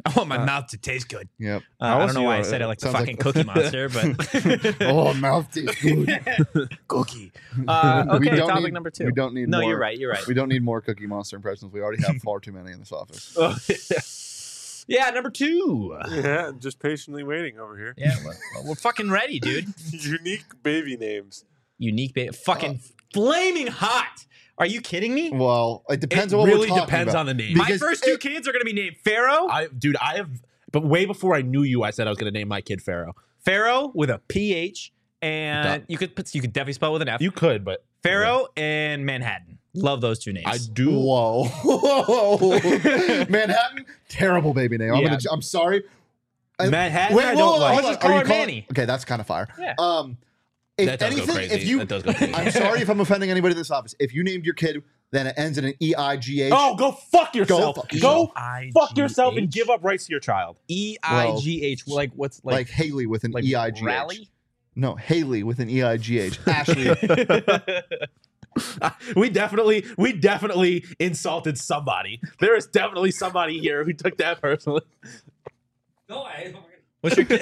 I want my mouth to taste good. Yep. Uh, How I else don't know do you why I want- said it like the sounds like- fucking Cookie Monster, but Oh, mouth tastes good. cookie. Uh, We okay, don't topic need- number two. We don't need. no, more, you're right. You're right. We don't need more Cookie Monster impressions. We already have far too many in this office. Yeah, number two. Yeah, just patiently waiting over here. Yeah, we're, we're fucking ready, dude. Unique baby names. Unique, ba- fucking flaming hot. Are you kidding me? Well, it depends It on what really we're talking depends about. on the name. My because first two it- kids are gonna be named Pharaoh. I, dude, I have, but way before I knew you, I said I was going to name my kid Pharaoh. Pharaoh with a P H, and Duh. you could put, you could definitely spell it with an F. You could, but Pharaoh and Manhattan. Love those two names. I do. Whoa, Whoa. Manhattan, terrible baby name. I'm, Yeah. gonna, I'm sorry. I- Manhattan, Wait, I whoa, don't whoa, like. hold Let's on. just call Are you her calling- Manny. Okay, that's kind of fire. Yeah. Um, if That does go anything, crazy. if you, That does go crazy. I'm sorry if I'm offending anybody in this office. If you named your kid, then it ends in an E I G H. Oh, go fuck yourself. fuck Go, yourself. fuck yourself and give up rights to your child. E I G H. Like what's like, like Haley with an like E I G H. Rally? No, Haley with an E I G H. Ashley. we definitely, we definitely insulted somebody. There is definitely somebody here who took that personally. No, I, What's your kid?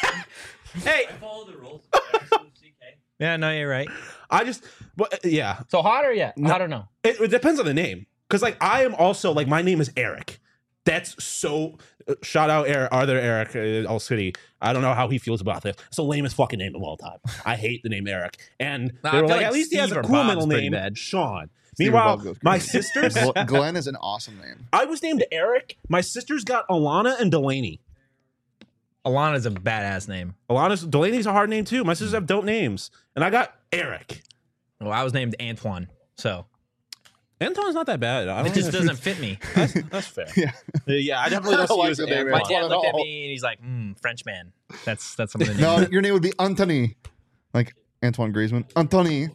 I Hey. follow the rules. C K. Yeah, no, you're right. I just, well, yeah, So hot or yet? No. I don't know. it, it depends on the name. Because like I am also like my name is Eric. That's so. Uh, shout out Eric, Arthur Eric, uh, All City. I don't know how he feels about this. It's the lamest fucking name of all time. I hate the name Eric. And Nah, they I were feel like, like at least he has Steve a or cool Bob's middle pretty name, bad. Sean. Steve or Meanwhile, Bob goes my crazy. sisters, Gl- Glenn is an awesome name. I was named Eric. My sisters got Alana and Delaney. Alana's a badass name. Alana's Delaney's a hard name too. My sisters have dope names, and I got Eric. Well, I was named Antoine, so Antoine's not that bad. I it don't just know. doesn't fit me. That's, that's fair. Yeah. Uh, yeah, I definitely I don't don't see like you as the an name Antoine. My Antoine. dad looked at all. me and he's like, mm, French man. That's that's some of the names. No, your name would be Anthony. Like Antoine Griezmann. Anthony.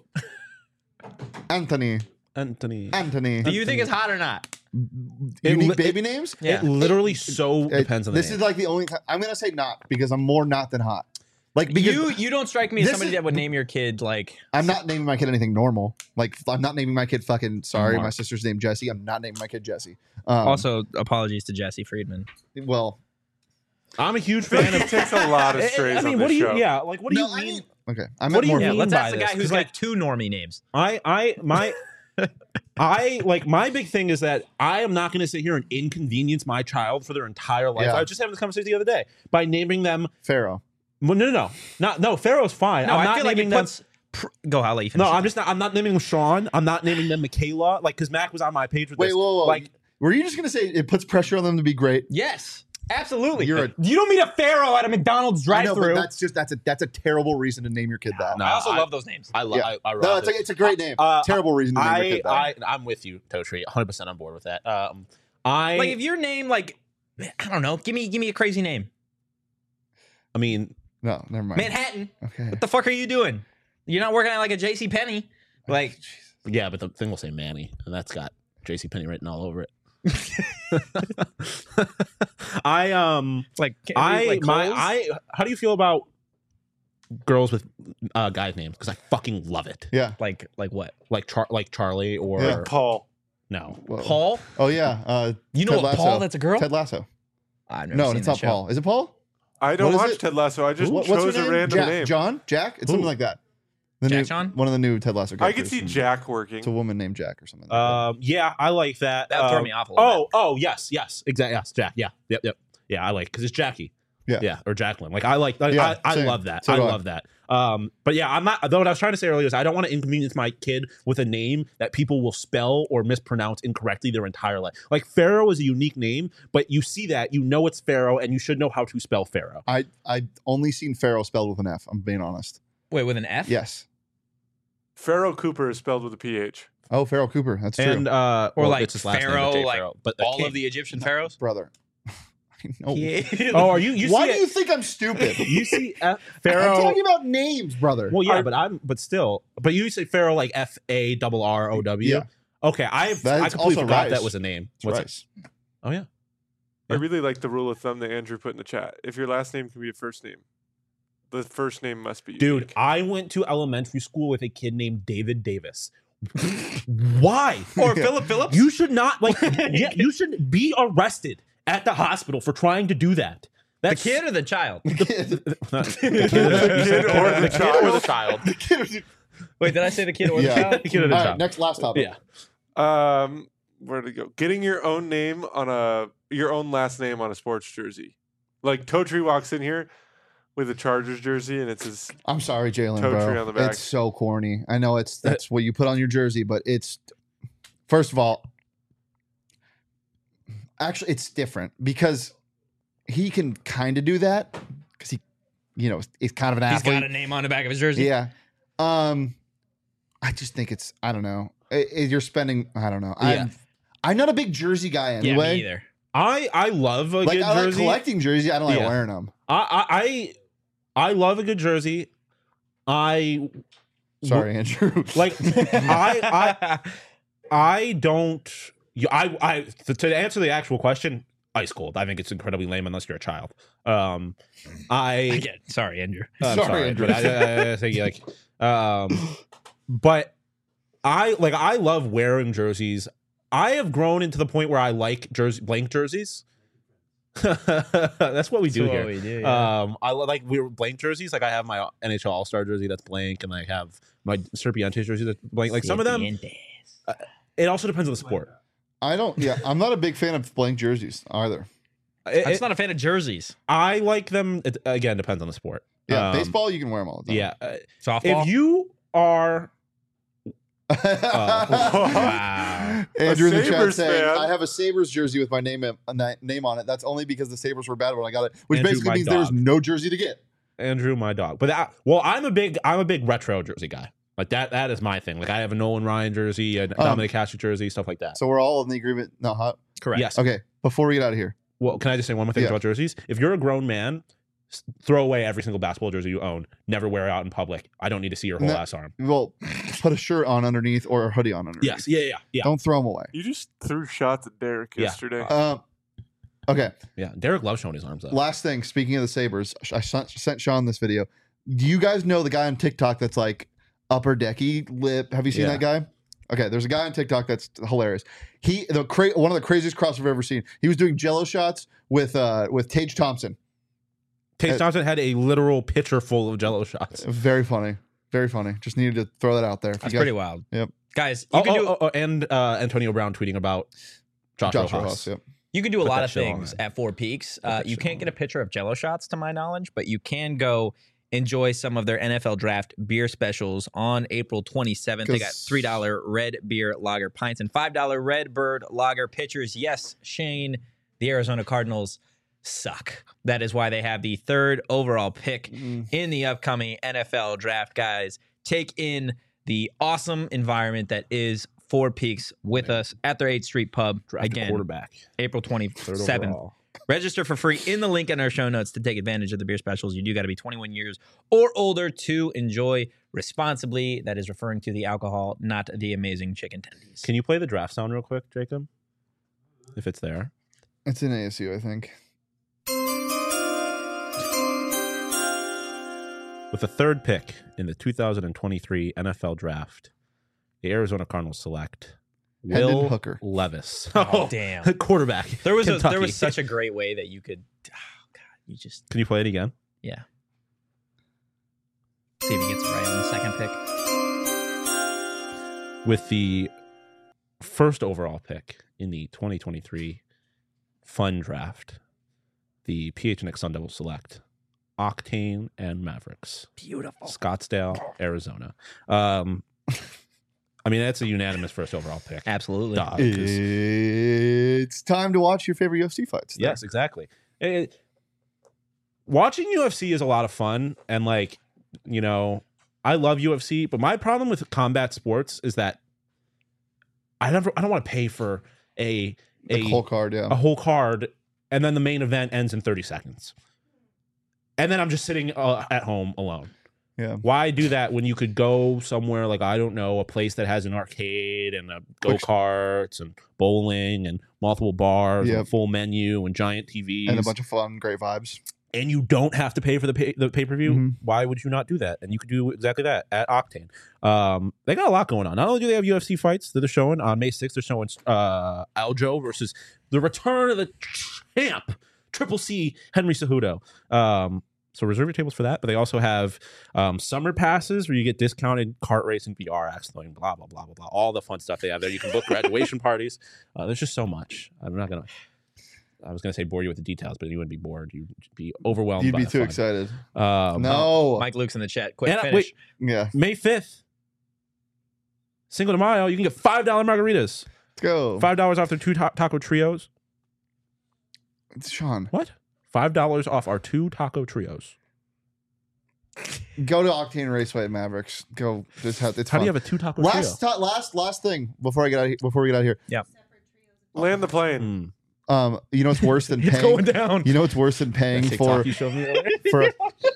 Anthony. Anthony. Anthony. Do you think it's hot or not? It Unique li- baby names? Yeah. It literally so It- depends on the This name. is like the only time. I'm going to say not because I'm more not than hot. Like, because You you don't strike me as This somebody is- that would name your kid like I'm not naming my kid anything normal. Like, I'm not naming my kid fucking, sorry, my Mark. sister's name Jesse. I'm not naming my kid Jesse. Um, also apologies to Jesse Friedman. well, I'm a huge I feel fan like of. he takes a lot of I- strays I mean, on what this do you? show. Yeah, like what do no, you I mean? mean, okay. I What meant do you more. Yeah, mean let's by ask the guy this? who's 'Cause, got like- two normie names. I, I, my, I like my big thing is that I am not going to sit here and inconvenience my child for their entire life. Yeah. I was just having this conversation the other day by naming them. Pharaoh. Well, no, no, no, not no. Pharaoh's fine. No, I'm I not feel like naming it them. puts. Pr- go, I'll let you finish. No, it. I'm just not. I'm not naming them Sean. I'm not naming them Michaela. Like, because Mac was on my page with Wait, this. whoa, whoa. Like, Were you just going to say it puts pressure on them to be great? Yes, absolutely. You're a- you don't meet a pharaoh at a McDonald's I know, but drive-through. that's just, that's a, that's a terrible reason to name your kid that. No, I also I- love those names. I love. Yeah. I, I No, rock it's a, it. it's a great name. Uh, Terrible reason to name your I, kid that. I, I'm with you, Totri. one hundred percent on board with that. Um, I, Like if your name, like I don't know, give me give me a crazy name. I mean, no, never mind. Manhattan. Okay. What the fuck are you doing? You're not working at like a J C Penney. Like yeah, but the thing will say Manny, and that's got JCPenney written all over it. I um like I like my Coles? I how do you feel about girls with uh guys names? Because I fucking love it. Yeah. like like what? Like Char like Charlie or Yeah. Paul. no. Whoa. Paul? Oh, yeah. Uh, You know Ted what Lasso. Paul? That's a girl. Ted Lasso. I've never No, seen it's that not show. Paul. Is it Paul? I don't What is watch it? Ted Lasso. I just What- what's her chose a name? random Jack, name. John? Jack? It's something Who? like that. The Jack new, John? One of the new Ted Lasso I characters. could see Jack working. It's a woman named Jack or something. Like Um yeah, I like that. That would throw Um, me off a little Oh, oh yes, yes, exactly. Yes, Jack. Yeah, yep, yep. Yeah, I like because it's Jackie. Yeah. yeah, or Jacqueline. Like I like. I, Yeah, I, I same. love that. So I do I. love that. Um, but yeah, I'm not. Though what I was trying to say earlier is I don't want to inconvenience my kid with a name that people will spell or mispronounce incorrectly their entire life. Like Pharaoh is a unique name, but you see that, you know it's Pharaoh, and you should know how to spell Pharaoh. I I only seen Pharaoh spelled with an F. I'm being honest. Wait, with an F? Yes. Pharaoh Cooper is spelled with a P H. Oh, Pharaoh Cooper. That's true. And uh, Or well, like it's his last name, Pharaoh, Jay like Pharaoh, but the All king- of the Egyptian pharaohs? Brother. I know. Oh, are you? You Why see do it- you think I'm stupid? You see F- I'm Pharaoh. talking about names, brother. Well, yeah, Are- but I'm, but still, but you say Pharaoh like F A double R O W. Yeah. Okay, I That I is completely also forgot Rice. that was a name. It's What's it? Rice. Oh yeah. I Yeah. really like the rule of thumb that Andrew put in the chat. If your last name can be a first name, the first name must be unique. Dude, I went to elementary school with a kid named David Davis. Why? Or Yeah. Philip Phillips? You should not like. Yeah, you should be arrested at the hospital for trying to do that. The That's kid or the child? the kid, The kid or the or the child? child. Wait, did I say the kid or Yeah. the child? The kid or the All right, child. next last topic. Yeah. Um, where to go? Getting your own name on a your own last name on a sports jersey. Like Totri walks in here with a Chargers jersey, and it's his. I'm sorry, Jalen, Toe tree bro. on the back. It's so corny. I know it's that's what you put on your jersey, but it's first of all, actually, it's different because he can kind of do that because he, you know, he's kind of an He's athlete. got a name on the back of his jersey. Yeah. Um, I just think it's I don't know. I- I- you're spending I don't know. Yeah. I'm I'm not a big jersey guy Yeah, anyway. me either. I I love a Like good I like jersey. collecting jerseys. I don't like Yeah. wearing them. I, I I I love a good jersey. I Sorry, Andrew. like I I I don't. you- I I to, to answer the actual question, ice cold. I think it's incredibly lame unless you're a child. Um, I Again, sorry, Andrew. I'm Sorry, sorry, Andrew. but I, I, I think like, um, but I like I love wearing jerseys. I have grown into the point where I like jersey blank jerseys. That's what we do That's here. what we do, yeah. Um, I li- like we're blank jerseys. Like I have my N H L All Star jersey that's blank, and I have my Serpientes jersey that's blank. Like some of them, it also depends on the sport. I don't. Yeah, I'm not a big fan of blank jerseys either. It- I'm it- not a fan of jerseys. I like them. It, again, depends on the sport. Yeah, Um, baseball you can wear them all the time. Yeah, uh, Softball. if you are Wow. Andrew in the chat Sabres saying, fan. I have a Sabres jersey with my name a na- name on it. That's only because the Sabres were bad when I got it, which Andrew, basically my means there was dog. no jersey to get. Andrew, my dog. But that, well, I'm a big I'm a big retro jersey guy. Like that that is my thing. Like I have a Nolan Ryan jersey, a Dominic Hasek jersey, stuff like that. So we're all in the agreement. No, hot. Correct. Yes. Okay, before we get out of here, Well, can I just say one more thing Yeah. about jerseys? If you're a grown man, s- throw away every single basketball jersey you own. Never wear it out in public. I don't need to see your whole No. ass arm. well, put a shirt on underneath or a hoodie on underneath. Yes. Yeah. Yeah. Yeah. Don't throw them away. You just threw shots at Derek Yeah. yesterday. Um, okay, Yeah. Derek loves showing his arms up. last thing. Speaking of the Sabres, I sent, sent Sean this video. Do you guys know the guy on TikTok that's like upper decky lip? Have you seen Yeah. that guy? Okay, there's a guy on TikTok that's hilarious. He the cra- one of the craziest crosses I've ever seen. He was doing Jello shots with uh with Tage Thompson. Tage uh, Thompson had a literal pitcher full of Jello shots. Very funny, very funny. Just needed to throw that out there. If That's you guys- pretty wild. Yep. Guys, you Oh, can oh, do oh, oh, and uh, Antonio Brown tweeting about Josh, Josh Rojas. Rojas. Yep. you can do a Put lot that of shit on, things man. at Four Peaks. Put Uh, that you shit can't on. get a picture of Jello shots, to my knowledge, but you can go enjoy some of their N F L draft beer specials on April twenty-seventh. They got 'Cause- three dollar red beer lager pints and five dollar red bird lager pitchers. Yes, Shane, the Arizona Cardinals suck. That is why they have the third overall pick Mm. in the upcoming N F L draft. Guys, take in the awesome environment that is Four Peaks with us at their eighth Street Pub. Draft a Again, quarterback. April Third twenty-seventh. overall. Register for free in the link in our show notes to take advantage of the beer specials. You do got to be twenty-one years or older to enjoy responsibly. That is referring to the alcohol, not the amazing chicken tendies. Can you play the draft sound real quick, Jacob? If it's there. It's in A S U, I think. With the third pick in the two thousand twenty-three N F L Draft, the Arizona Cardinals select Hendon Will Hooker. Levis. Oh, damn. Quarterback. There was a, Kentucky. there was such a great way that you could. Oh God, you just Can you play it again? yeah. See if he gets it right on the second pick. With the first overall pick in the twenty twenty-three Fun Draft, the P H N X Sun Devils select Octane and Mavericks, Beautiful. Scottsdale, Arizona. Um, I mean, that's a unanimous first overall pick. Absolutely. Dog, 'cause- It's time to watch your favorite U F C fights. Yes, exactly. It- watching U F C is a lot of fun, and like, you know, I love U F C, but my problem with combat sports is that I never, I don't want to pay for a The a whole card, yeah. a whole card, and then the main event ends in thirty seconds, and then I'm just sitting uh, at home alone. Yeah. Why do that when you could go somewhere like, I don't know, a place that has an arcade and a go Which- karts and bowling and multiple bars and Yep. a full menu and giant T Vs And a bunch of fun, great vibes. and you don't have to pay for the pay, the pay per view. Mhm. Why would you not do that? And you could do exactly that at Octane. Um, they got a lot going on. Not only do they have U F C fights that they're showing on May sixth, they're showing uh, Aljo versus the return of the champ, Triple C Henry Cejudo. Um, so reserve your tables for that. But they also have um, summer passes where you get discounted kart racing, V R, axling, blah, blah, blah, blah, blah. All the fun stuff they have there. You can book graduation parties. Uh, there's just so much. I'm not going to. I was going to say bore you with the details, but you wouldn't be bored. You'd be overwhelmed. You'd by be the too fun. excited. Um, No. Mike Luke's in the chat. Quick And, uh, finish. wait. Yeah. May fifth, Cinco de Mayo, you can get five dollar margaritas. Let's go. five dollars off their two ta- taco trios. Sean, What? five dollars off our two taco trios. go to Octane Raceway at Mavericks. Go. It's, it's How fun. do you have a two taco last, trio? ti- last, last thing before I get out. Of, he- before we get out of here. Land the plane. Mm. Um, you know what's worse than It's paying? going down. You know what's worse than paying That for TikTok you showed me earlier? for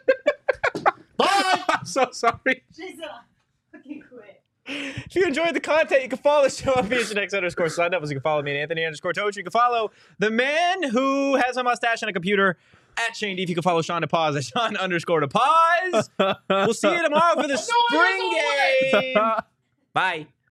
Bye. I'm so sorry. She's a fucking quit. If you enjoyed the content, you can follow the show on P H N X underscore sign up. You can follow me at Anthony underscore Toach. You can follow the man who has a mustache and a computer at Shane D. If you can follow Sean DePaz at Sean underscore DePaz. We'll see you tomorrow for the spring game. Bye.